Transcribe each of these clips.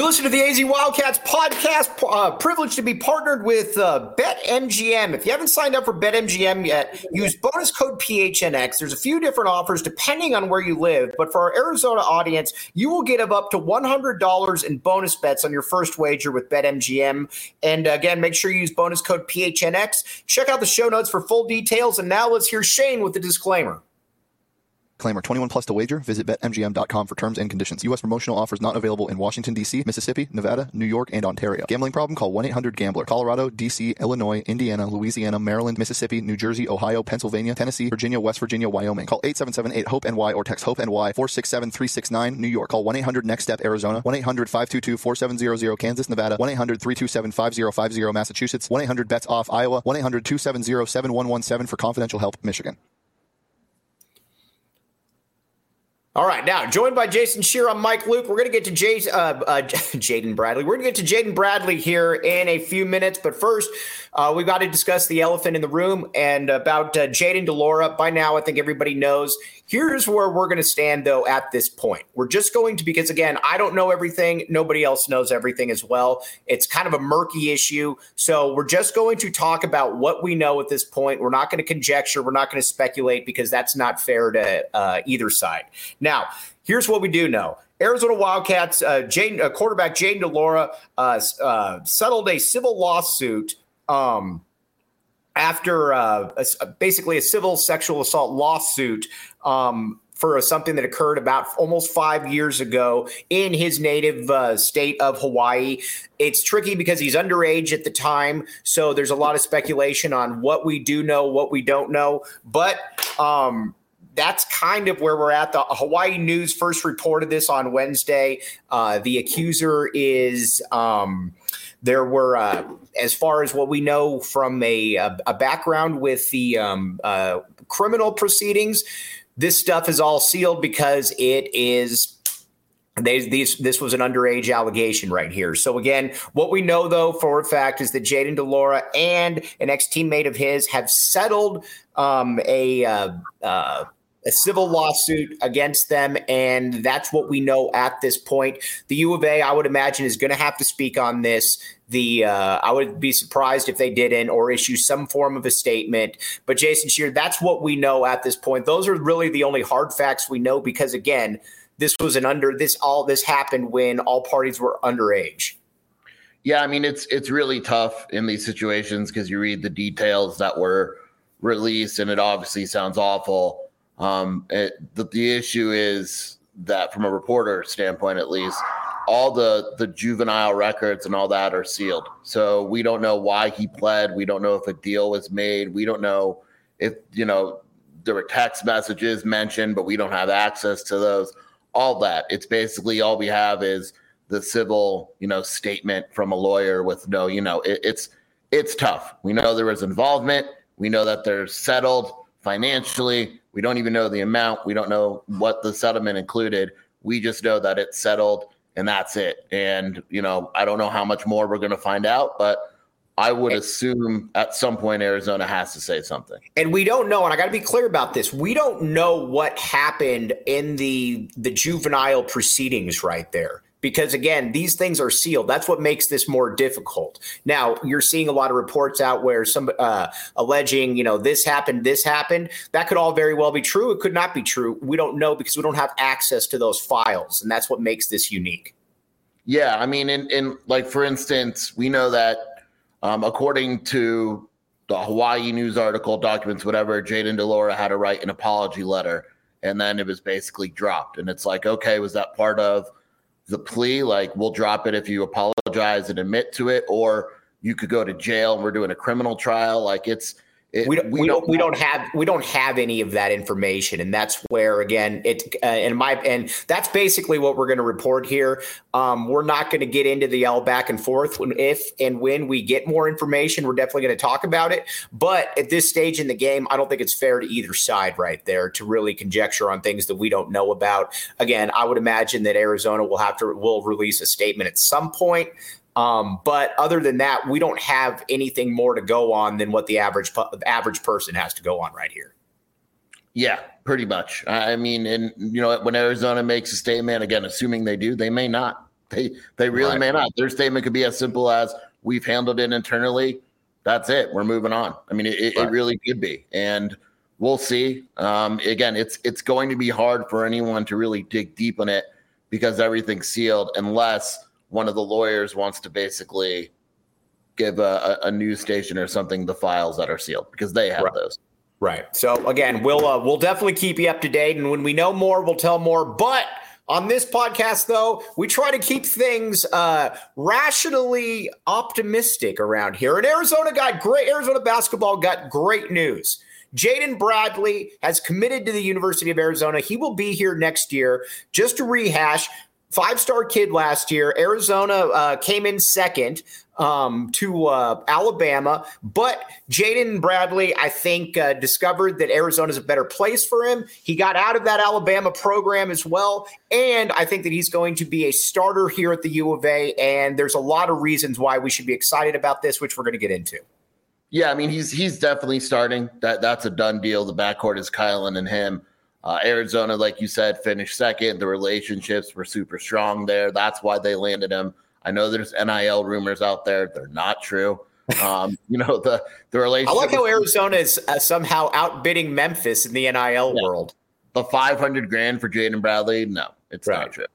listening to the AZ Wildcats podcast. Privileged to be partnered with BetMGM. If you haven't signed up for BetMGM yet, use bonus code PHNX. There's a few different offers depending on where you live, but for our Arizona audience, you will get up to $100 in bonus bets on your first wager with BetMGM. And again, make sure you use bonus code PHNX. Check out the show notes for full details. And now let's hear Shane with the disclaimer. Disclaimer, 21 plus to wager. Visit BetMGM.com for terms and conditions. U.S. promotional offers not available in Washington, D.C., Mississippi, Nevada, New York, and Ontario. Gambling problem? Call 1-800-GAMBLER. Colorado, D.C., Illinois, Indiana, Louisiana, Maryland, Mississippi, New Jersey, Ohio, Pennsylvania, Tennessee, Virginia, West Virginia, Wyoming. Call 877-8-HOPE-NY or text HOPE-NY 467-369. New York. Call 1-800-NEXT-STEP, Arizona. 1-800-522-4700, Kansas, Nevada. 1-800-327-5050, Massachusetts. 1-800-BETS-OFF, Iowa. 1-800-270-7117 for confidential help, Michigan. All right, now joined by Jason Scheer, I'm Mike Luke. We're going to get to Jaden Bradley. We're going to get to Jaden Bradley here in a few minutes, but first, we've got to discuss the elephant in the room and about Jayden de Laura. By now, I think everybody knows. Here's where we're going to stand, though, at this point. We're just going to, because, again, I don't know everything. Nobody else knows everything as well. It's kind of a murky issue. So we're just going to talk about what we know at this point. We're not going to conjecture. We're not going to speculate because that's not fair to either side. Now, here's what we do know. Arizona Wildcats, quarterback Jayden de Laura settled a civil lawsuit after basically a civil sexual assault lawsuit for something that occurred about almost 5 years ago in his native state of Hawaii. It's tricky because he's underage at the time, so there's a lot of speculation on what we do know, what we don't know. But that's kind of where we're at. The Hawaii News first reported this on Wednesday. The accuser is there were, as far as what we know from a background with the criminal proceedings, this stuff is all sealed because it is this was an underage allegation right here. So again, what we know though for a fact is that Jayden de Laura and an ex-teammate of his have settled a civil lawsuit against them, and that's what we know at this point. The U of A, I would imagine, is going to have to speak on this. I would be surprised if they didn't or issue some form of a statement. But Jason Scheer, that's what we know at this point. Those are really the only hard facts we know because, again, this happened when all parties were underage. Yeah, I mean, it's really tough in these situations because you read the details that were released, and it obviously sounds awful. The issue is that from a reporter standpoint, at least, all the juvenile records and all that are sealed. So we don't know why he pled. We don't know if a deal was made. We don't know if, there were text messages mentioned, but we don't have access to those. All that. It's basically all we have is the civil, statement from a lawyer with no, it's tough. We know there was involvement. We know that they're settled financially. We don't even know the amount. We don't know what the settlement included. We just know that it's settled and that's it. And, I don't know how much more we're going to find out, but I would assume at some point Arizona has to say something. And we don't know, and I got to be clear about this. We don't know what happened in the juvenile proceedings right there. Because, again, these things are sealed. That's what makes this more difficult. Now, you're seeing a lot of reports out where some alleging, this happened. That could all very well be true. It could not be true. We don't know because we don't have access to those files, and that's what makes this unique. Yeah, I mean, in like, for instance, we know that according to the Hawaii News article, documents, whatever, Jayden de Laura had to write an apology letter, and then it was basically dropped. And it's like, okay, was that part of the plea? Like, we'll drop it if you apologize and admit to it, or you could go to jail and we're doing a criminal trial. Like, we don't have any of that information, and that's where, again, and that's basically what we're going to report here. We're not going to get into the all back and forth. If and when we get more information, we're definitely going to talk about it. But at this stage in the game, I don't think it's fair to either side right there to really conjecture on things that we don't know about. Again, I would imagine that Arizona will release a statement at some point. But other than that, we don't have anything more to go on than what the average person has to go on right here. Yeah, pretty much. I mean, and when Arizona makes a statement, again, assuming they do, they may not. They really may not. Their statement could be as simple as, we've handled it internally. That's it. We're moving on. I mean, it really could be. And we'll see. Again, it's going to be hard for anyone to really dig deep in it because everything's sealed unless one of the lawyers wants to basically give a news station or something the files that are sealed because they have those. Right. So again, we'll definitely keep you up to date. And when we know more, we'll tell more. But on this podcast, though, we try to keep things rationally optimistic around here. And Arizona basketball got great news. Jaden Bradley has committed to the University of Arizona. He will be here next year. Just to rehash, 5-star kid last year. Arizona came in second to Alabama. But Jaden Bradley, I think, discovered that Arizona is a better place for him. He got out of that Alabama program as well. And I think that he's going to be a starter here at the U of A. And there's a lot of reasons why we should be excited about this, which we're going to get into. Yeah, I mean, he's definitely starting. That's a done deal. The backcourt is Kylan and him. Arizona, like you said, finished second. The relationships were super strong there. That's why they landed him. I know there's NIL rumors out there. They're not true. The relationship. I like how Arizona is somehow outbidding Memphis in the NIL world. The $500,000 for Jaden Bradley, no, it's not true.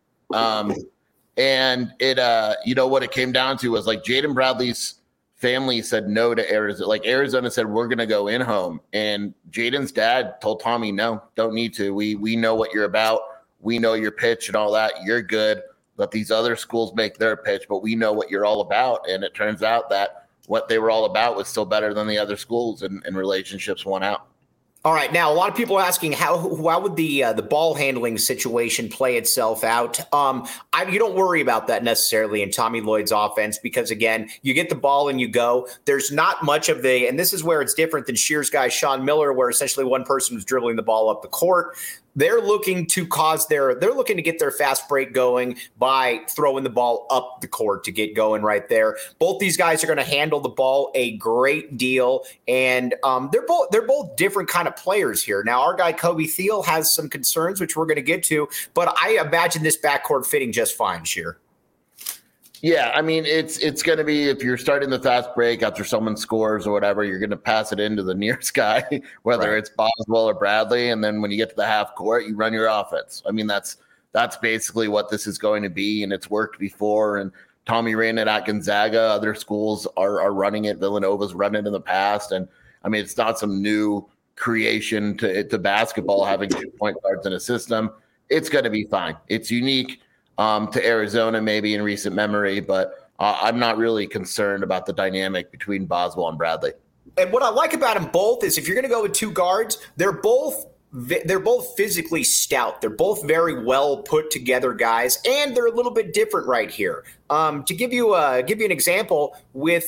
And it, what it came down to was like Jaden Bradley's family said no to Arizona. Like Arizona said, we're going to go in home. And Jaden's dad told Tommy, no, don't need to. We know what you're about. We know your pitch and all that. You're good. Let these other schools make their pitch, but we know what you're all about. And it turns out that what they were all about was still better than the other schools, and relationships won out. All right. Now, a lot of people are asking how would the ball handling situation play itself out? You don't worry about that necessarily in Tommy Lloyd's offense because, again, you get the ball and you go. There's not much of and this is where it's different than Shear's guy, Sean Miller, where essentially one person was dribbling the ball up the court. They're looking to get their fast break going by throwing the ball up the court to get going right there. Both these guys are going to handle the ball a great deal, and they're both different kind of players here. Now, our guy Kobe Thiel has some concerns, which we're going to get to, but I imagine this backcourt fitting just fine, Shear. Yeah, I mean, it's going to be, if you're starting the fast break after someone scores or whatever, you're going to pass it into the nearest guy, whether it's Boswell or Bradley, and then when you get to the half court, you run your offense. I mean, that's basically what this is going to be, and it's worked before. And Tommy ran it at Gonzaga. Other schools are running it. Villanova's run it in the past, and I mean, it's not some new creation to basketball having 2 point guards in a system. It's going to be fine. It's unique to Arizona, maybe in recent memory, but I'm not really concerned about the dynamic between Boswell and Bradley. And what I like about them both is if you're going to go with two guards, they're both physically stout. They're both very well put together guys, and they're a little bit different right here. To give you an example with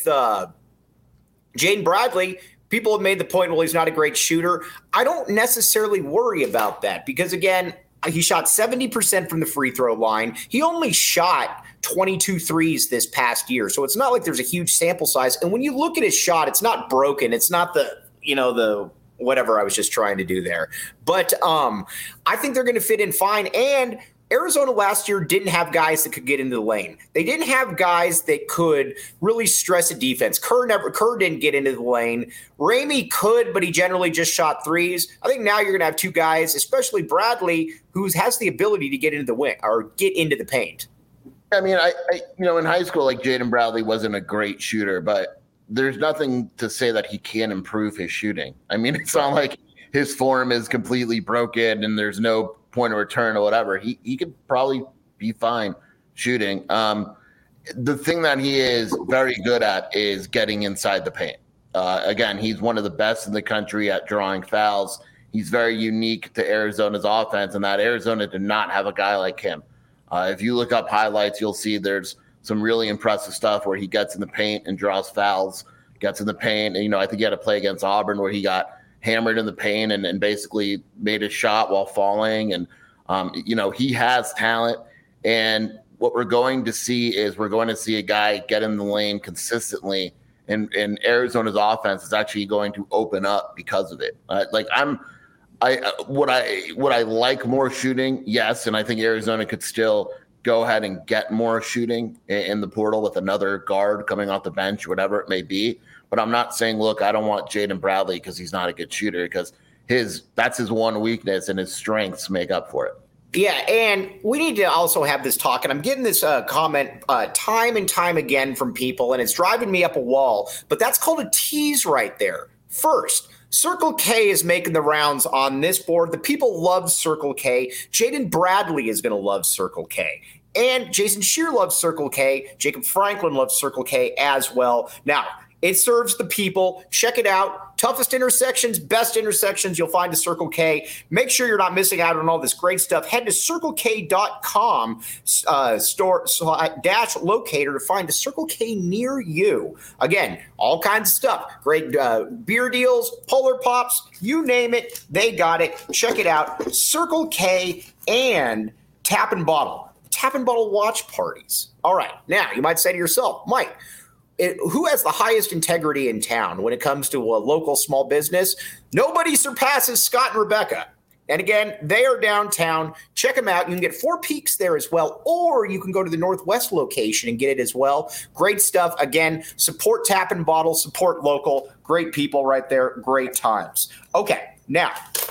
Jaden Bradley, people have made the point, well, he's not a great shooter. I don't necessarily worry about that because, again, he shot 70% from the free throw line. He only shot 22 threes this past year. So it's not like there's a huge sample size. And when you look at his shot, it's not broken. It's not the whatever I was just trying to do there. But I think they're going to fit in fine. And Arizona last year didn't have guys that could get into the lane. They didn't have guys that could really stress a defense. Kerr didn't get into the lane. Ramey could, but he generally just shot threes. I think now you're going to have two guys, especially Bradley, who has the ability to get into the wing or get into the paint. I mean, I in high school, like Jaden Bradley wasn't a great shooter, but there's nothing to say that he can't improve his shooting. I mean, it's not like his form is completely broken and there's no point of return or whatever. He could probably be fine shooting. The thing that he is very good at is getting inside the paint. Again, he's one of the best in the country at drawing fouls. He's very unique to Arizona's offense, and that Arizona did not have a guy like him. If you look up highlights, you'll see there's some really impressive stuff where he gets in the paint and draws fouls, gets in the paint. And, I think he had a play against Auburn where he got hammered in the paint and basically made a shot while falling. And, he has talent. And what we're going to see is a guy get in the lane consistently. And Arizona's offense is actually going to open up because of it. Would I like more shooting? Yes. And I think Arizona could still go ahead and get more shooting in the portal with another guard coming off the bench, whatever it may be. But I'm not saying, look, I don't want Jaden Bradley because he's not a good shooter, because that's his one weakness, and his strengths make up for it. Yeah, and we need to also have this talk, and I'm getting this comment time and time again from people, and it's driving me up a wall, but that's called a tease right there. First, Circle K is making the rounds on this board. The people love Circle K. Jaden Bradley is going to love Circle K. And Jason Scheer loves Circle K. Jacob Franklin loves Circle K as well. Now, it serves the people. Check it out. Toughest intersections, best intersections you'll find at Circle K. Make sure you're not missing out on all this great stuff. Head to CircleK.com /locator to find a Circle K near you. Again, all kinds of stuff. Great beer deals, Polar Pops, you name it, they got it. Check it out. Circle K and Tap and Bottle. Tap and Bottle watch parties. All right. Now, you might say to yourself, Mike, who has the highest integrity in town when it comes to a local small business? Nobody surpasses Scott and Rebecca. And again, they are downtown. Check them out. You can get Four Peaks there as well, or you can go to the Northwest location and get it as well. Great stuff. Again, support Tap and Bottle, support local. Great people right there. Great times. Okay, now,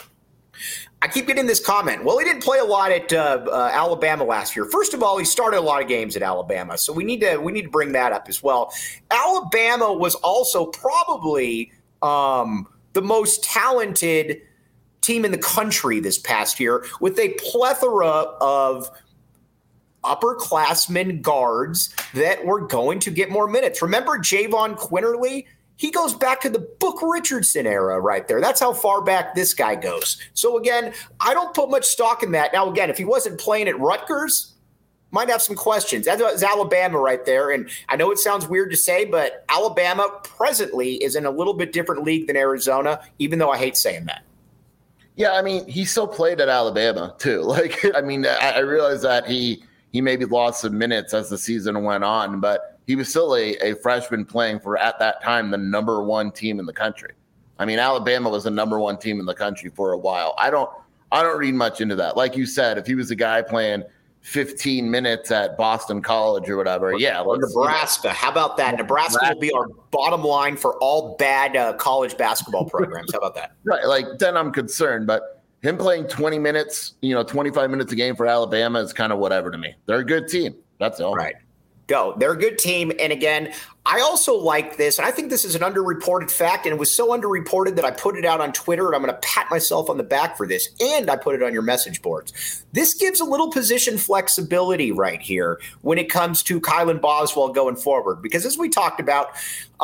I keep getting this comment. Well, he didn't play a lot at Alabama last year. First of all, he started a lot of games at Alabama, so we need to bring that up as well. Alabama was also probably the most talented team in the country this past year, with a plethora of upperclassmen guards that were going to get more minutes. Remember Javon Quinterly? He goes back to the Book Richardson era right there. That's how far back this guy goes. So, again, I don't put much stock in that. Now, again, if he wasn't playing at Rutgers, might have some questions. That was Alabama right there. And I know it sounds weird to say, but Alabama presently is in a little bit different league than Arizona, even though I hate saying that. Yeah, I mean, he still played at Alabama, too. Like, I mean, I realize that he maybe lost some minutes as the season went on, but he was still a freshman playing for, at that time, the number one team in the country. I mean, Alabama was the number one team in the country for a while. I don't read much into that. Like you said, if he was a guy playing 15 minutes at Boston College or whatever, or Nebraska. How about that? Nebraska will be our bottom line for all bad college basketball programs. How about that? Right. Like, then I'm concerned. But him playing 20 minutes, 25 minutes a game for Alabama is kind of whatever to me. They're a good team. That's all. Right. Go. They're a good team. And again, I also like this, and I think this is an underreported fact, and it was so underreported that I put it out on Twitter, and I'm going to pat myself on the back for this, and I put it on your message boards. This gives a little position flexibility right here when it comes to Kylan Boswell going forward, because as we talked about,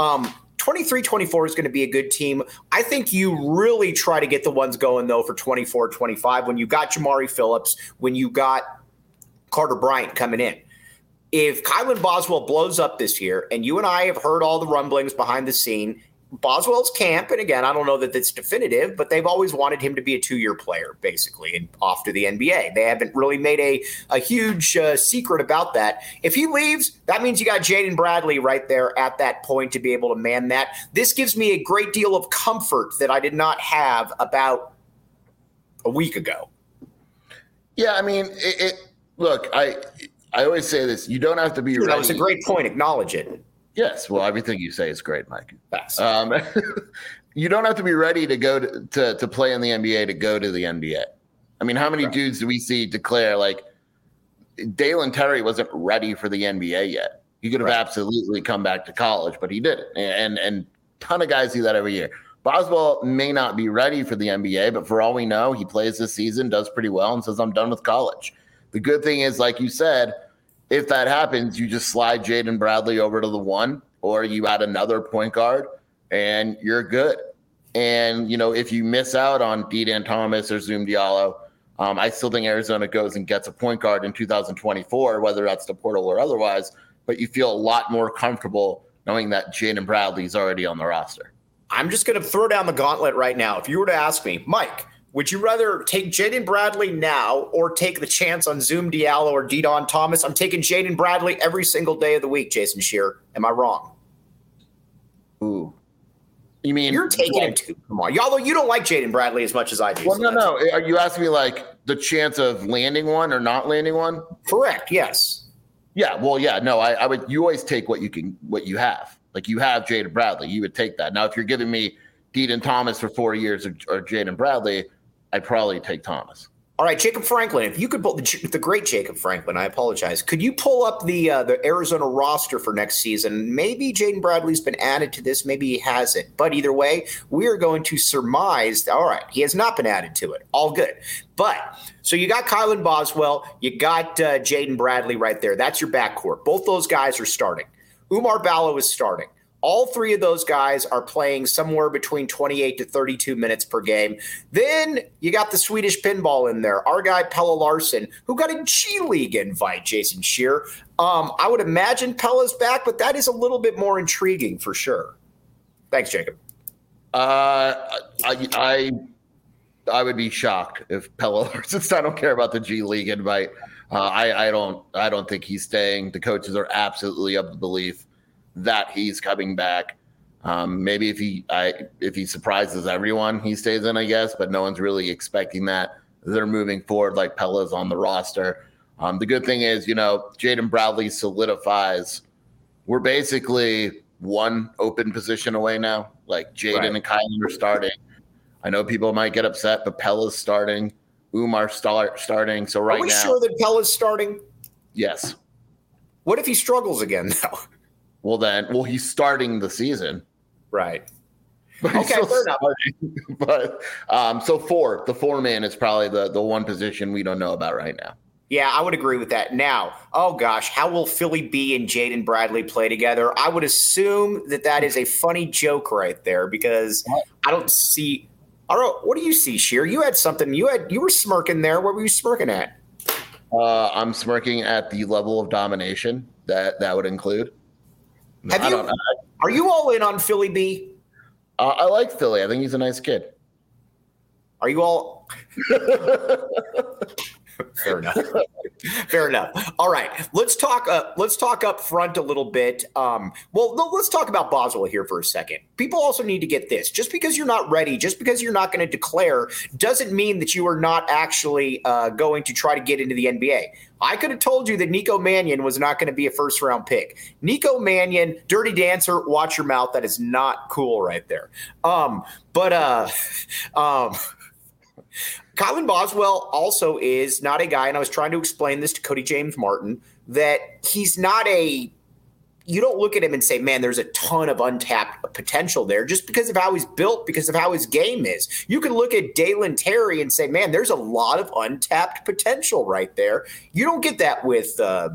23-24 is going to be a good team. I think you really try to get the ones going, though, for 24-25 when you got Jamari Phillips, when you got Carter Bryant coming in. If Kylan Boswell blows up this year, and you and I have heard all the rumblings behind the scene, Boswell's camp, and again, I don't know that it's definitive, but they've always wanted him to be a 2-year player, basically, and off to the NBA. They haven't really made a huge secret about that. If he leaves, that means you got Jaden Bradley right there at that point to be able to man that. This gives me a great deal of comfort that I did not have about a week ago. Yeah, I mean, look, I always say this. You don't have to be ready. That was a great point. Acknowledge it. Yes. Well, everything you say is great, Mike. Thanks. You don't have to be ready to go to play in the NBA to go to the NBA. I mean, how many dudes do we see declare, like, Dalen Terry wasn't ready for the NBA yet? He could have absolutely come back to college, but he didn't. And a ton of guys do that every year. Boswell may not be ready for the NBA, but for all we know, he plays this season, does pretty well, and says, I'm done with college. The good thing is, like you said, if that happens, you just slide Jaden Bradley over to the 1, or you add another point guard, and you're good. And, if you miss out on Dedan Thomas or Zoom Diallo, I still think Arizona goes and gets a point guard in 2024, whether that's the portal or otherwise, but you feel a lot more comfortable knowing that Jaden Bradley is already on the roster. I'm just going to throw down the gauntlet right now. If you were to ask me, Mike, would you rather take Jaden Bradley now or take the chance on Zoom Diallo or Dedan Thomas? I'm taking Jaden Bradley every single day of the week, Jason Scheer. Am I wrong? Ooh. You mean you're taking him too? Come on. Although you don't like Jaden Bradley as much as I do. Well, no. Are you asking me, like, the chance of landing one or not landing one? Correct. Yes. Yeah. Well, yeah. No, I would. You always take what you have. Like you have Jaden Bradley, you would take that. Now, if you're giving me Dean Thomas for 4 years or Jaden Bradley, I'd probably take Thomas. All right, Jacob Franklin. If you could pull the great Jacob Franklin, I apologize. Could you pull up the Arizona roster for next season? Maybe Jaden Bradley's been added to this. Maybe he hasn't. But either way, we are going to surmise. All right, he has not been added to it. All good. But so you got Kylan Boswell, you got Jaden Bradley right there. That's your backcourt. Both those guys are starting. Oumar Ballo is starting. All three of those guys are playing somewhere between 28 to 32 minutes per game. Then you got the Swedish pinball in there, our guy Pelle Larsson, who got a G League invite, Jason Scheer. I would imagine Pelle's back, but that is a little bit more intriguing for sure. Thanks, Jacob. I would be shocked if Pelle Larsson. I don't care about the G League invite. I don't think he's staying. The coaches are absolutely of the belief that he's coming back. Maybe if he surprises everyone, he stays in, I guess, but no one's really expecting that. They're moving forward like Pelle's on the roster. The good thing is, Jaden Bradley solidifies. We're basically one open position away now. Like Jaden and Kylan are starting. I know people might get upset, but Pelle's starting. Oumar starting. So right now, are we sure that Pelle's starting? Yes. What if he struggles again, though? Well, he's starting the season. Right. Okay, fair enough. But the four-man is probably the one position we don't know about right now. Yeah, I would agree with that. Now, oh gosh, how will Philly B and Jaden Bradley play together? I would assume that is a funny joke right there because I don't see. What do you see, Scheer? You had something. You were smirking there. What were you smirking at? I'm smirking at the level of domination that would include. Are you all in on Philly B? I like Philly. I think he's a nice kid. Are you all? Fair enough. Fair enough. All right, let's talk up front a little bit. Let's talk about Boswell here for a second. People also need to get this. Just because you're not ready, just because you're not going to declare, doesn't mean that you are not actually going to try to get into the NBA. I could have told you that Nico Mannion was not going to be a first-round pick. Nico Mannion, Dirty Dancer, watch your mouth. That is not cool right there. Kylan Boswell also is not a guy, and I was trying to explain this to Cody James Martin, that he's not you don't look at him and say, man, there's a ton of untapped potential there just because of how he's built, because of how his game is. You can look at Dalen Terry and say, man, there's a lot of untapped potential right there. You don't get that with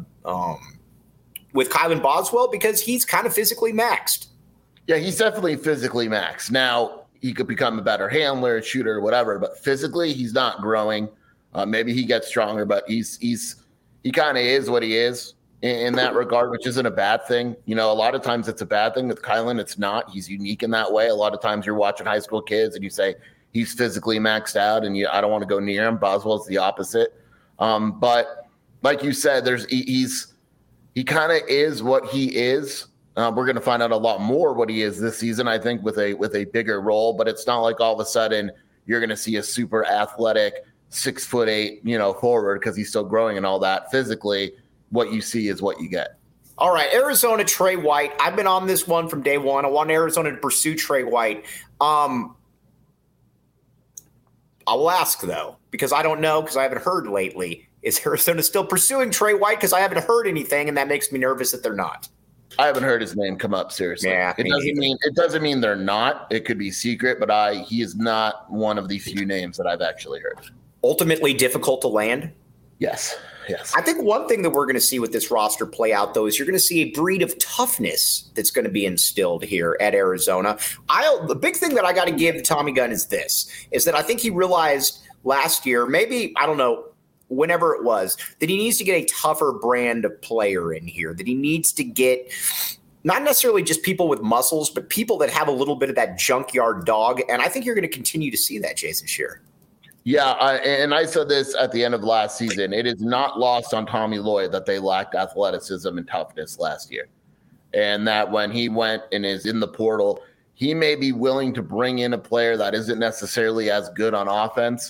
Kylan Boswell because he's kind of physically maxed. Yeah, he's definitely physically maxed. Now, he could become a better handler, shooter, whatever, but physically he's not growing. Maybe he gets stronger, but he kind of is what he is in that regard, which isn't a bad thing. A lot of times it's a bad thing. With Kylan, it's not. He's unique in that way. A lot of times you're watching high school kids and you say he's physically maxed out and I don't want to go near him. Boswell's the opposite. But like you said, he kind of is what he is. We're going to find out a lot more what he is this season, I think, with a bigger role. But it's not like all of a sudden you're going to see a super athletic 6'8", forward because he's still growing and all that. Physically, what you see is what you get. All right, Arizona, Trey White. I've been on this one from day one. I want Arizona to pursue Trey White. I will ask, though, because I don't know, because I haven't heard lately. Is Arizona still pursuing Trey White? Because I haven't heard anything, and that makes me nervous that they're not. I haven't heard his name come up seriously. Yeah, it doesn't mean they're not. It could be secret, but he is not one of the few names that I've actually heard. Ultimately difficult to land? Yes. I think one thing that we're going to see with this roster play out, though, is you're going to see a breed of toughness that's going to be instilled here at Arizona. The big thing that I got to give Tommy Gunn is that I think he realized last year, maybe, I don't know, whenever it was, that he needs to get a tougher brand of player in here, that he needs to get not necessarily just people with muscles, but people that have a little bit of that junkyard dog. And I think you're going to continue to see that, Jason Scheer. Yeah, and I said this at the end of last season. It is not lost on Tommy Lloyd that they lacked athleticism and toughness last year. And that when he went and is in the portal, he may be willing to bring in a player that isn't necessarily as good on offense,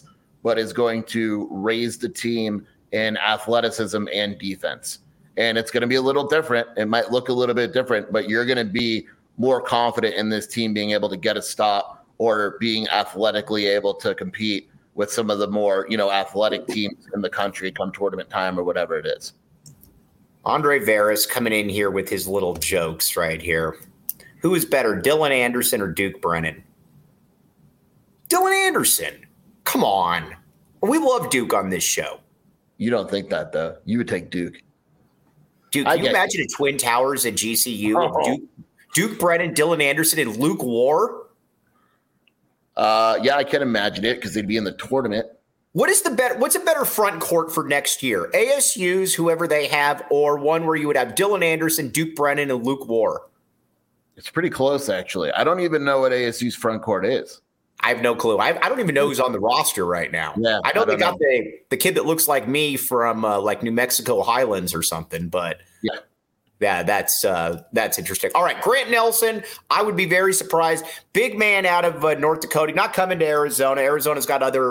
but is going to raise the team in athleticism and defense. And it's going to be a little different. It might look a little bit different, but you're going to be more confident in this team being able to get a stop or being athletically able to compete with some of the more, athletic teams in the country come tournament time or whatever it is. Andre Veras coming in here with his little jokes right here. Who is better, Dylan Anderson or Duke Brennan? Dylan Anderson. Come on. We love Duke on this show. You don't think that, though. You would take Duke. Dude, can you imagine a Twin Towers at GCU of Duke Brennan, Dylan Anderson, and Luke War? Yeah, I can imagine it because they'd be in the tournament. What's a better front court for next year? ASU's, whoever they have, or one where you would have Dylan Anderson, Duke Brennan, and Luke War? It's pretty close, actually. I don't even know what ASU's front court is. I have no clue. I don't even know who's on the roster right now. Yeah, I know they got the kid that looks like me from like New Mexico Highlands or something, but yeah, that's interesting. All right, Grant Nelson, I would be very surprised. Big man out of North Dakota, not coming to Arizona. Arizona's got other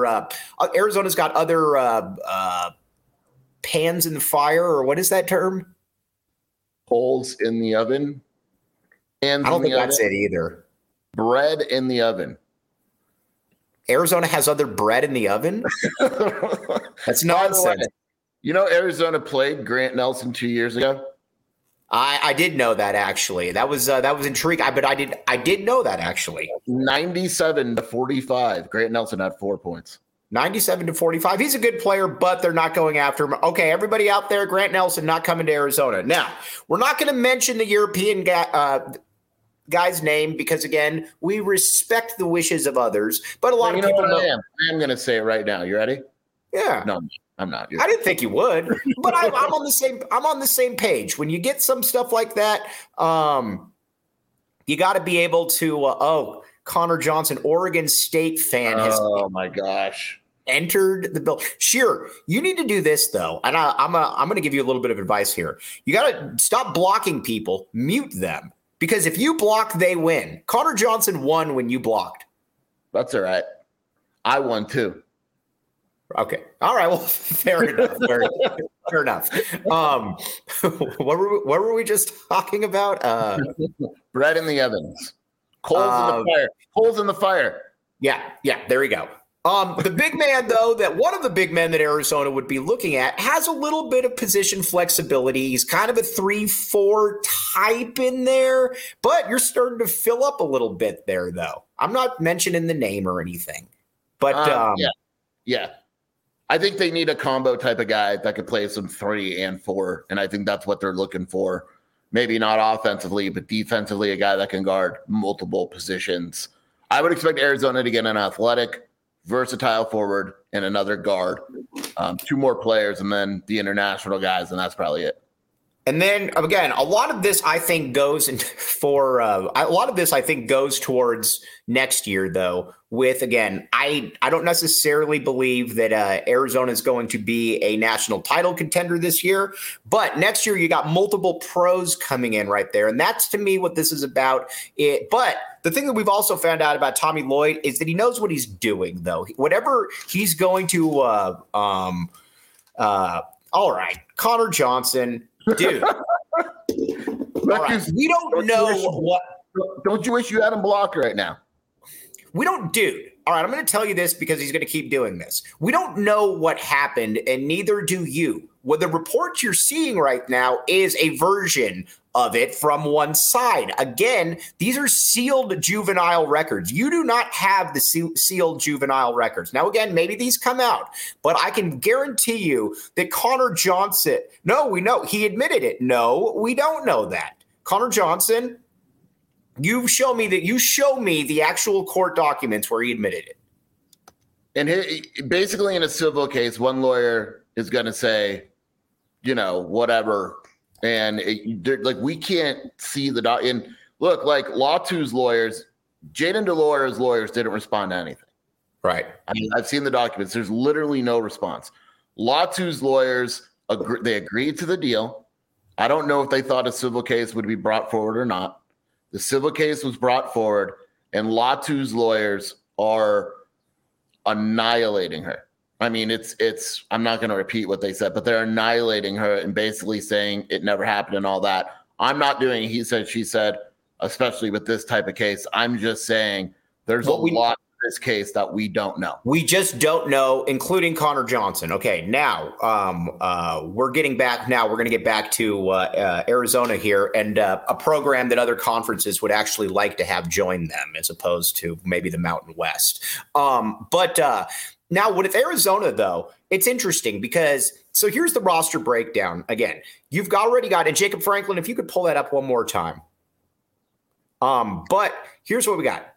pans in the fire, or what is that term? Holes in the oven. I don't think that's it either. Bread in the oven. Arizona has other bread in the oven? That's nonsense. Arizona played Grant Nelson 2 years ago. I did know that, actually. That was intriguing. But I did know that, actually. 97-45. Grant Nelson had 4 points. 97-45. He's a good player, but they're not going after him. Okay, everybody out there, Grant Nelson not coming to Arizona. Now, we're not going to mention the European guy's name because, again, we respect the wishes of others. But a lot of people know. I am going to say it right now. You ready? Yeah. No, I'm not. I didn't think you would, but I'm on the same page. When you get some stuff like that, you got to be able to. Connor Johnson, Oregon State fan, has my gosh entered the bill. Sure, you need to do this though, and I'm going to give you a little bit of advice here. You got to stop blocking people, mute them, because if you block, they win. Connor Johnson won when you blocked. That's all right. I won too. Okay. All right. Well, fair enough. Fair enough. What were we just talking about? Bread in the ovens. Coals in the fire. Coals in the fire. Yeah. There we go. The big man, though, one of the big men that Arizona would be looking at has a little bit of position flexibility. He's kind of a 3-4 type in there, but you're starting to fill up a little bit there, though. I'm not mentioning the name or anything, but yeah. I think they need a combo type of guy that could play some 3 and 4, and I think that's what they're looking for. Maybe not offensively, but defensively, a guy that can guard multiple positions. I would expect Arizona to get an athletic, versatile forward and another guard, 2 more players, and then the international guys, and that's probably it. And then again, a lot of this I think goes towards next year, though. With again, I don't necessarily believe that Arizona is going to be a national title contender this year, but next year you got multiple pros coming in right there, and that's to me what this is about. But the thing that we've also found out about Tommy Lloyd is that he knows what he's doing, though. Whatever he's going to, all right, Connor Johnson. Dude, right. We don't know what. Don't you wish you had him blocked right now? We don't, dude. All right, I'm going to tell you this because he's going to keep doing this. We don't know what happened, and neither do you. What the reports you're seeing right now is a version of it from one side. Again, these are sealed juvenile records. You do not have the sealed juvenile records. Now, again, maybe these come out, but I can guarantee you that Connor Johnson, no, we know he admitted it. No, we don't know that. Connor Johnson, you show me the actual court documents where he admitted it. And basically in a civil case, one lawyer is going to say, whatever. And we can't see the doc. And look, like Latu's lawyers, Jaden DeLore's lawyers didn't respond to anything. Right. I mean, I've seen the documents. There's literally no response. Latu's lawyers, they agreed to the deal. I don't know if they thought a civil case would be brought forward or not. The civil case was brought forward, and Latu's lawyers are annihilating her. I mean, I'm not going to repeat what they said, but they're annihilating her and basically saying it never happened and all that. I'm not doing he said, she said, especially with this type of case. I'm just saying there's a lot of this case that we don't know. We just don't know, including Connor Johnson. Okay, now we're getting back. Now we're going to get back to Arizona here, and a program that other conferences would actually like to have join them, as opposed to maybe the Mountain West. But now with Arizona, though, it's interesting because so here's the roster breakdown. Again, you've already got, and Jacob Franklin, if you could pull that up one more time. But here's what we got.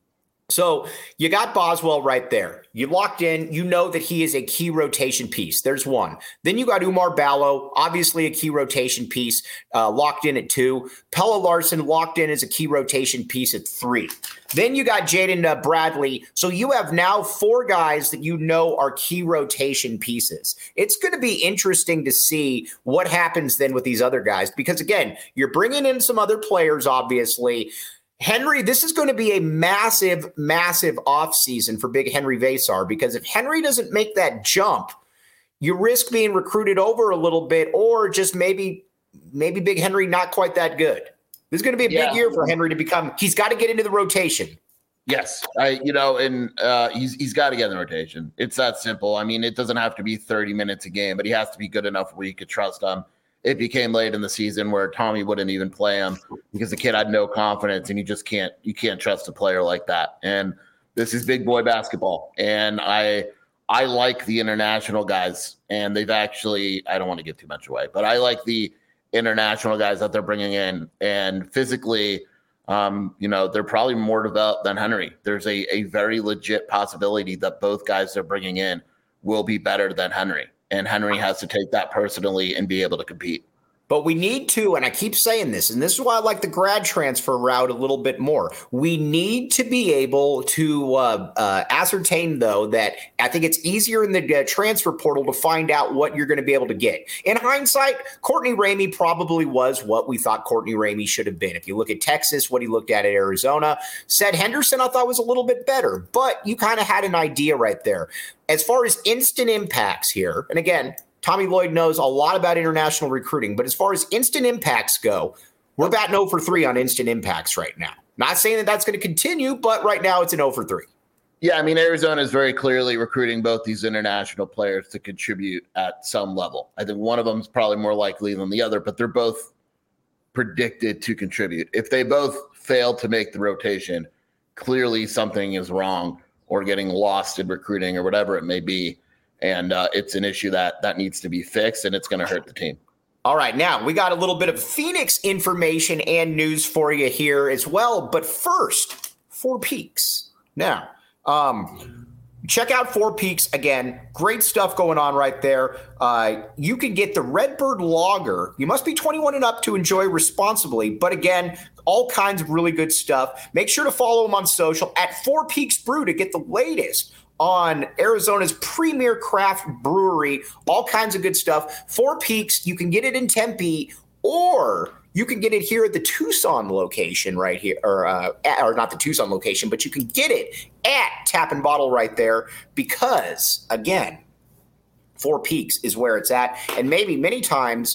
So you got Boswell right there. You locked in. You know that he is a key rotation piece. There's one. Then you got Umar Ballo, obviously a key rotation piece, locked in at 2. Pella Larson locked in as a key rotation piece at 3. Then you got Jaden Bradley. So you have now 4 guys that you know are key rotation pieces. It's going to be interesting to see what happens then with these other guys because, again, you're bringing in some other players, obviously. Henry, this is going to be a massive, massive offseason for Big Henry Versar because if Henry doesn't make that jump, you risk being recruited over a little bit or just maybe Big Henry not quite that good. This is going to be a big year for Henry to become – he's got to get into the rotation. Yes, he's got to get in the rotation. It's that simple. I mean, it doesn't have to be 30 minutes a game, but he has to be good enough where you could trust him. It became late in the season where Tommy wouldn't even play him because the kid had no confidence, and you can't trust a player like that. And this is big boy basketball, and I like the international guys, and they've actually, I don't want to give too much away, but I like the international guys that they're bringing in, and physically, they're probably more developed than Henry. There's a very legit possibility that both guys they're bringing in will be better than Henry. And Henry has to take that personally and be able to compete. But we need to, and I keep saying this, and this is why I like the grad transfer route a little bit more. We need to be able to ascertain, though, that I think it's easier in the transfer portal to find out what you're going to be able to get. In hindsight, Courtney Ramey probably was what we thought Courtney Ramey should have been. If you look at Texas, what he looked at Arizona, Seth Henderson I thought was a little bit better, but you kind of had an idea right there. As far as instant impacts here, and again, Tommy Lloyd knows a lot about international recruiting, but as far as instant impacts go, we're batting 0 for 3 on instant impacts right now. Not saying that that's going to continue, but right now it's an 0 for 3. Yeah, I mean, Arizona is very clearly recruiting both these international players to contribute at some level. I think one of them is probably more likely than the other, but they're both predicted to contribute. If they both fail to make the rotation, clearly something is wrong or getting lost in recruiting or whatever it may be. And it's an issue that needs to be fixed, and it's going to hurt the team. All right, now we got a little bit of Phoenix information and news for you here as well. But first, Four Peaks. Now, check out Four Peaks again. Great stuff going on right there. You can get the Redbird Lager. You must be 21 and up to enjoy responsibly. But again, all kinds of really good stuff. Make sure to follow them on social at Four Peaks Brew to get the latest on Arizona's premier craft brewery, all kinds of good stuff. Four Peaks, you can get it in Tempe, or you can get it here at the Tucson location right here, or not the Tucson location, but you can get it at Tap and Bottle right there because, again, Four Peaks is where it's at. And maybe many times,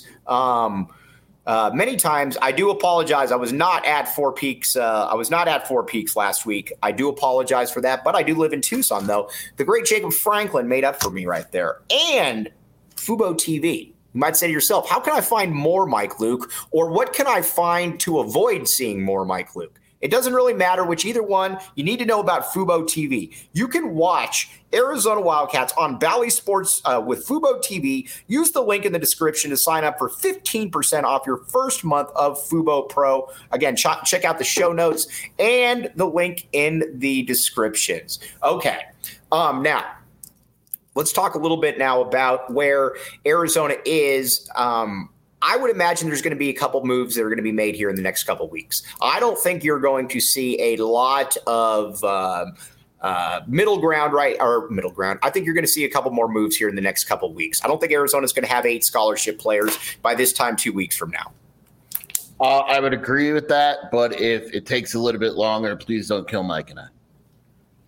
I do apologize. I was not at Four Peaks. Last week. I do apologize for that, but I do live in Tucson, though. The great Jacob Franklin made up for me right there. And Fubo TV. You might say to yourself, how can I find more Mike Luke? Or what can I find to avoid seeing more Mike Luke? It doesn't really matter which either one. You need to know about Fubo TV. You can watch Arizona Wildcats on Bally Sports with Fubo TV. Use the link in the description to sign up for 15% off your first month of Fubo Pro. Again, check out the show notes and the link in the descriptions. Okay, now let's talk a little bit now about where Arizona is. I would imagine there's going to be a couple moves that are going to be made here in the next couple weeks. I don't think you're going to see a lot of middle ground. I think you're going to see a couple more moves here in the next couple weeks. I don't think Arizona's going to have 8 scholarship players by this time 2 weeks from now. I would agree with that, but if it takes a little bit longer, please don't kill Mike and I.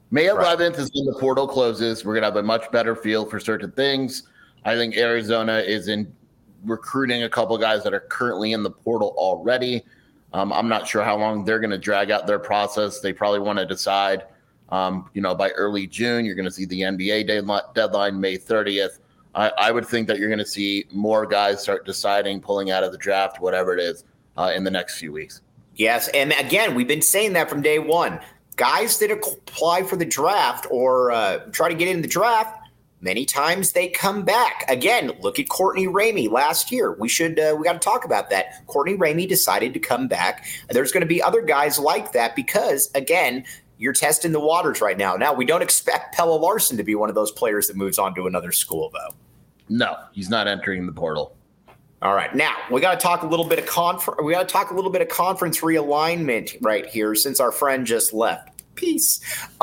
May 11th is when the portal closes. We're going to have a much better feel for certain things. I think Arizona is in recruiting a couple of guys that are currently in the portal already. I'm not sure how long they're going to drag out their process. They probably want to decide, by early June. You're going to see the NBA deadline May 30th. I would think that you're going to see more guys start deciding, pulling out of the draft, whatever it is, in the next few weeks. Yes, and again, we've been saying that from day one. Guys that apply for the draft or try to get in the draft, many times they come back. Again, look at Courtney Ramey last year. We got to talk about that. Courtney Ramey decided to come back. There's going to be other guys like that because, again, you're testing the waters right now. Now, we don't expect Pelle Larsson to be one of those players that moves on to another school, though. No, he's not entering the portal. All right, now we got to talk a little bit of conference realignment right here, since our friend just left. Peace.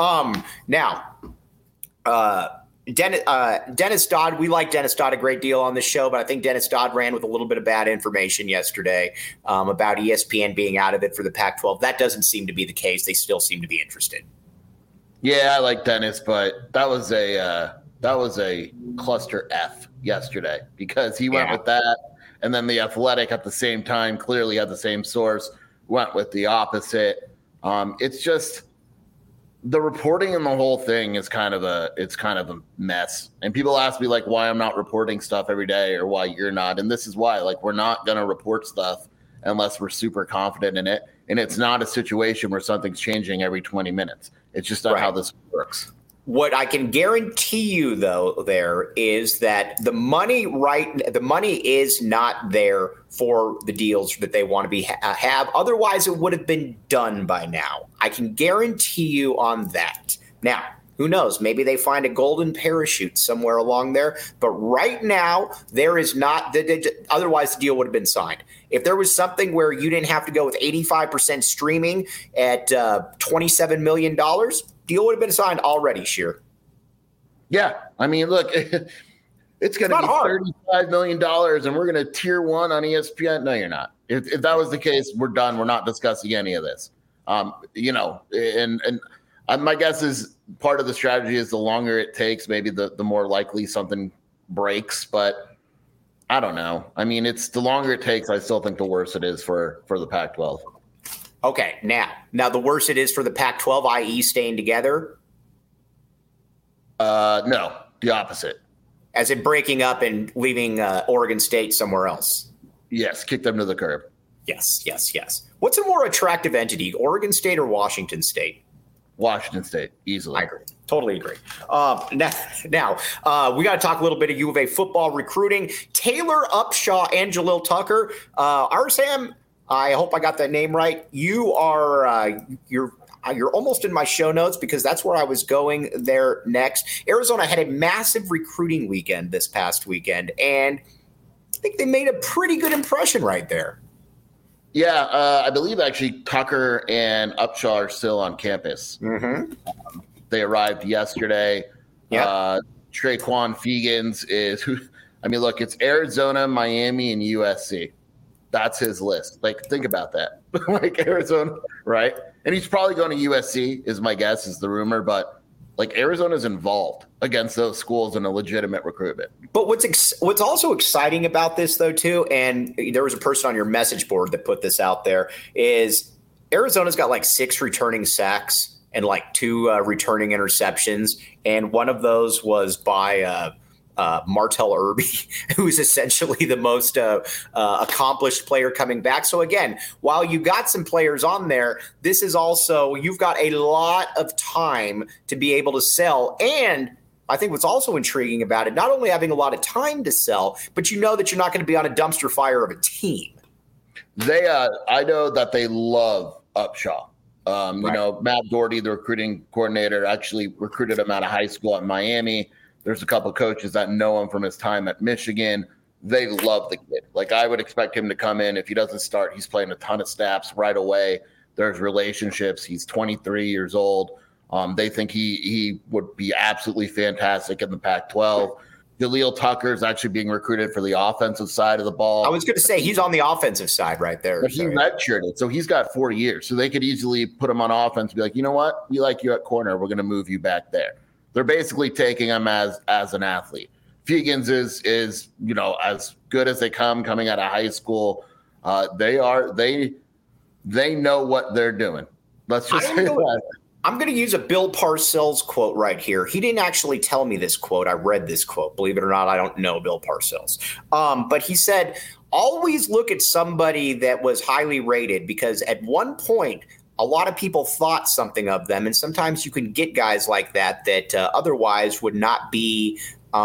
Dennis Dodd, we like Dennis Dodd a great deal on the show, but I think Dennis Dodd ran with a little bit of bad information yesterday about ESPN being out of it for the Pac-12. That doesn't seem to be the case. They still seem to be interested. Yeah, I like Dennis, but that was a cluster F yesterday because he went with that, and then the Athletic at the same time clearly had the same source, went with the opposite. It's just the reporting in the whole thing is kind of a mess. And people ask me like why I'm not reporting stuff every day or why you're not. And this is why, like, we're not going to report stuff unless we're super confident in it. And it's not a situation where something's changing every 20 minutes. It's just not how this works. What I can guarantee you, though, there is that the money is not there for the deals that they want to have. Otherwise, it would have been done by now. I can guarantee you on that. Now, who knows? Maybe they find a golden parachute somewhere along there. But right now, there is not. Otherwise, the deal would have been signed. If there was something where you didn't have to go with 85% streaming at $27 million, deal would have been signed already, Scheer. Yeah. I mean, look, it's going to be $35 million and we're going to tier one on ESPN. No, you're not. If that was the case, we're done. We're not discussing any of this. And my guess is part of the strategy is the longer it takes, maybe the more likely something breaks. But I don't know. I mean, it's the longer it takes, I still think the worse it is for the Pac-12. Okay, now the worse it is for the Pac-12, i.e. staying together? No, the opposite. As in breaking up and leaving Oregon State somewhere else? Yes, kick them to the curb. Yes. What's a more attractive entity, Oregon State or Washington State? Washington State, easily. I agree. Totally agree. Now we got to talk a little bit of U of A football recruiting. Taylor Upshaw and Jalil Tucker. Arsam, I hope I got that name right. You are you're almost in my show notes because that's where I was going there next. Arizona had a massive recruiting weekend this past weekend, and I think they made a pretty good impression right there. Yeah, I believe actually Tucker and Upshaw are still on campus. Mm-hmm. They arrived yesterday. Yeah. Traquan Fegans is who? I mean, look, it's Arizona, Miami, and USC. That's his list. Like, think about that. Like Arizona, right? And he's probably going to USC, is my guess, is the rumor. But like Arizona's involved against those schools in a legitimate recruitment. But what's also exciting about this, though, too, and there was a person on your message board that put this out there, is Arizona's got like 6 returning sacks and like 2 returning interceptions, and one of those was by Martell Irby, who's essentially the most accomplished player coming back. So again, while you got some players on there, this is also, you've got a lot of time to be able to sell. And I think what's also intriguing about it, not only having a lot of time to sell, but you know that you're not going to be on a dumpster fire of a team. I know that they love Upshaw. Right. You know, Matt Doherty, the recruiting coordinator, actually recruited him out of high school at Miami. There's a couple of coaches that know him from his time at Michigan. They love the kid. Like, I would expect him to come in. If he doesn't start, he's playing a ton of snaps right away. There's relationships. He's 23 years old. They think he would be absolutely fantastic in the Pac-12. Jaleel Tucker is actually being recruited for the offensive side of the ball. I was going to say he's on the offensive side right there. But he redshirted, so he's got 4 years. So they could easily put him on offense and be like, you know what? We like you at corner. We're going to move you back there. They're basically taking him as an athlete. Fegans is as good as they coming out of high school. They know what they're doing. Let's just say that. I'm going to use a Bill Parcells quote right here. He didn't actually tell me this quote. I read this quote. Believe it or not, I don't know Bill Parcells. But he said, always look at somebody that was highly rated, because at one point, a lot of people thought something of them. And sometimes you can get guys like that otherwise would not be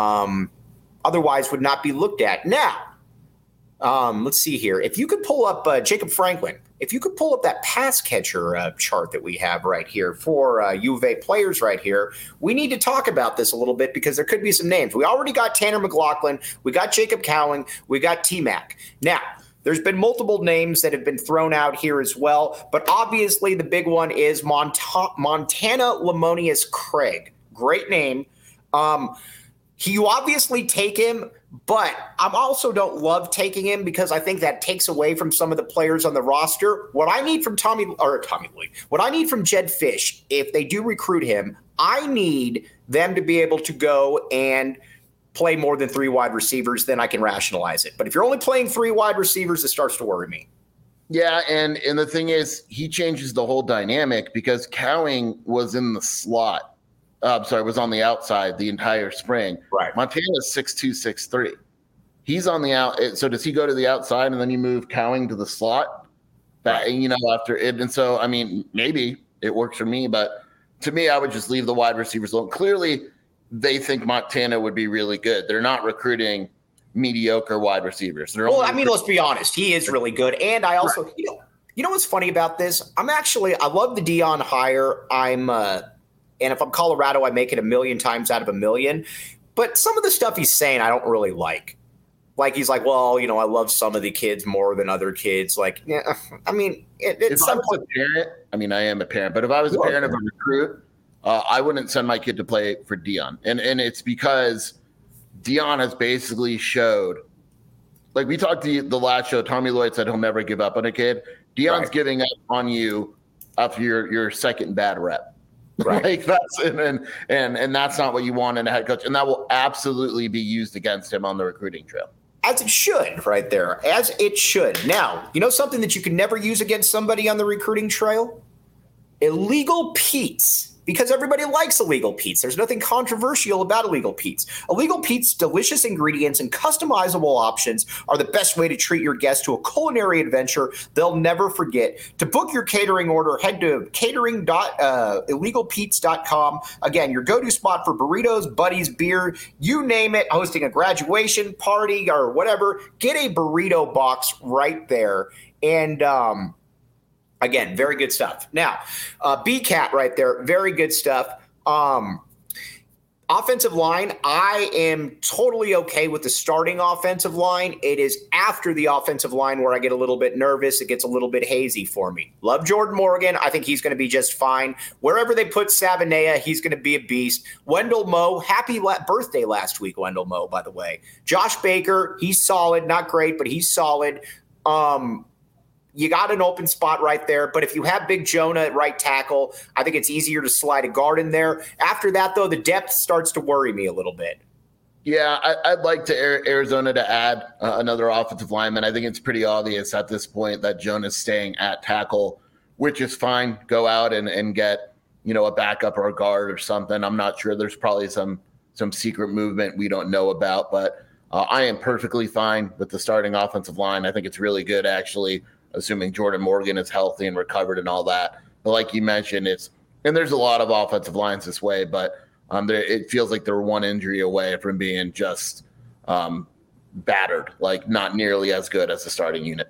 looked at. Now, let's see here. If you could pull up Jacob Franklin, if you could pull up that pass catcher chart that we have right here for U of A players right here, we need to talk about this a little bit because there could be some names. We already got Tanner McLaughlin. We got Jacob Cowling. We got T-Mac. Now, there's been multiple names that have been thrown out here as well, but obviously the big one is Montana Lamonius Craig. Great name. You obviously take him, but I also don't love taking him because I think that takes away from some of the players on the roster. What I need from what I need from Jedd Fisch, if they do recruit him, I need them to be able to go and play more than 3 wide receivers, then I can rationalize it. But if you're only playing 3 wide receivers, it starts to worry me. Yeah, and the thing is, he changes the whole dynamic because Cowing was in the slot. Was on the outside the entire spring. Right. Montana's 6'2", 6'3". He's on the out. So does he go to the outside and then you move Cowing to the slot? That, right. After it. And so, I mean, maybe it works for me, but to me, I would just leave the wide receivers alone. Clearly, they think Montana would be really good. They're not recruiting mediocre wide receivers. Let's be honest. He is really good. And I also, right. You know what's funny about this? I love the Dion hire. And if I'm Colorado, I make it 1,000,000 times out of 1,000,000. But some of the stuff he's saying, I don't really like. Like, he's like, well, I love some of the kids more than other kids. Like, yeah, I mean, it's if I was a parent, I am a parent, but if I was a parent of a recruit, I wouldn't send my kid to play for Dion. And it's because Dion has basically showed, like we talked to the last show, Tommy Lloyd said he'll never give up on a kid. Dion's giving up on you after your second bad rep. Right. Like that's and that's not what you want in a head coach. And that will absolutely be used against him on the recruiting trail. As it should, right there. As it should. Now, something that you can never use against somebody on the recruiting trail? Illegal Pete's. Because everybody likes Illegal Pete's. There's nothing controversial about Illegal Pete's. Illegal Pete's delicious ingredients and customizable options are the best way to treat your guests to a culinary adventure they'll never forget. To book your catering order, head to catering.illegalpete's.com. Again, your go-to spot for burritos, buddies, beer, you name it, hosting a graduation party or whatever. Get a burrito box right there. And again, very good stuff. Now, B-Cat right there, very good stuff. Offensive line, I am totally okay with the starting offensive line. It is after the offensive line where I get a little bit nervous. It gets a little bit hazy for me. Love Jordan Morgan. I think he's going to be just fine. Wherever they put Savanea, he's going to be a beast. Wendell Moe, happy birthday last week, Wendell Moe, by the way. Josh Baker, he's solid. Not great, but he's solid. You got an open spot right there, but if you have Big Jonah at right tackle, I think it's easier to slide a guard in there. After that, though, the depth starts to worry me a little bit. Yeah, I'd like Arizona to add another offensive lineman. I think it's pretty obvious at this point that Jonah's staying at tackle, which is fine. Go out and get, a backup or a guard or something. I'm not sure. There's probably some secret movement we don't know about, but I am perfectly fine with the starting offensive line. I think it's really good, actually, assuming Jordan Morgan is healthy and recovered and all that. But like you mentioned, there's a lot of offensive lines this way, but it feels like they're one injury away from being just battered, like not nearly as good as the starting unit.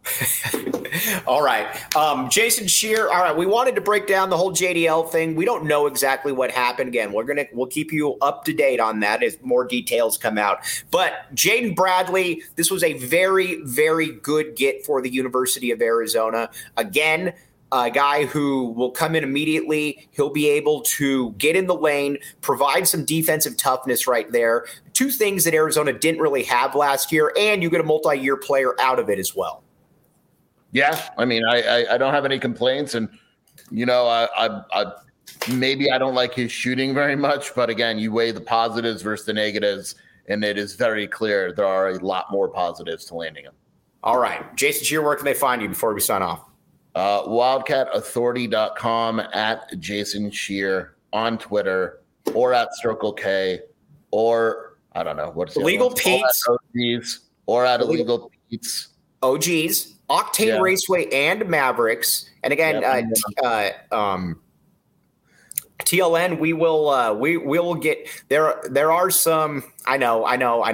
All right. Jason Scheer. All right. We wanted to break down the whole JDL thing. We don't know exactly what happened. Again, we'll keep you up to date on that as more details come out. But Jaden Bradley, this was a very, very good get for the University of Arizona. Again, a guy who will come in immediately. He'll be able to get in the lane, provide some defensive toughness right there. Two things that Arizona didn't really have last year, and you get a multi-year player out of it as well. Yeah, I mean, I don't have any complaints, and I maybe I don't like his shooting very much, but again, you weigh the positives versus the negatives, and it is very clear there are a lot more positives to landing him. All right, Jason Scheer, where can they find you before we sign off? WildcatAuthority.com, at Jason Scheer on Twitter, or at Circle K, or I don't know what's Illegal Pete's, or at Illegal Pete's, OGs, Octane Raceway, and Mavericks. And again, TLN, we will get there. There are some. I know.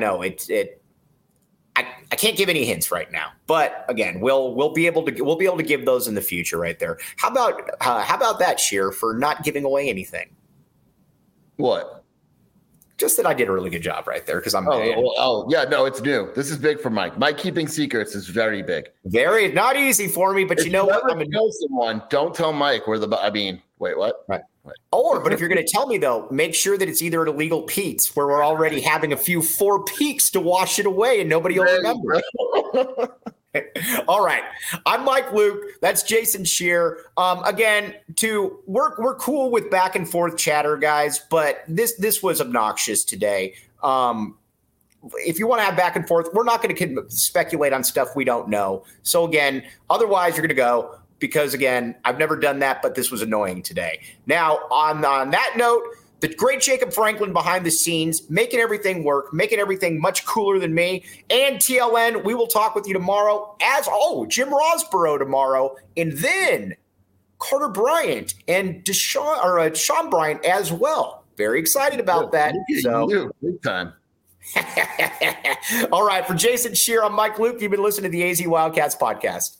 I can't give any hints right now, but again, we'll be able to give those in the future, right there. How about that, Scheer, for not giving away anything? What? Just that I did a really good job right there because I'm. Yeah, no, it's new. This is big for Mike. Mike keeping secrets is very big. Very not easy for me, but if you know what? I'm gonna tell someone. Don't tell Mike where the. I mean, wait, what? Right. But if you're going to tell me, though, make sure that it's either at Illegal Pete's, where we're already having a few 4 peaks to wash it away and nobody will remember. All right. I'm Mike Luke. That's Jason Scheer. Again, we're cool with back and forth chatter, guys, but this was obnoxious today. If you want to have back and forth, we're not going to speculate on stuff we don't know. So again, otherwise you're going to go. Because, again, I've never done that, but this was annoying today. Now, on that note, the great Jacob Franklin behind the scenes, making everything work, making everything much cooler than me. And TLN, we will talk with you tomorrow. Jim Rosborough tomorrow. And then Carter Bryant and Sean Bryant as well. Very excited about that. Big time. All right, for Jason Scheer, I'm Mike Luke. You've been listening to the AZ Wildcats podcast.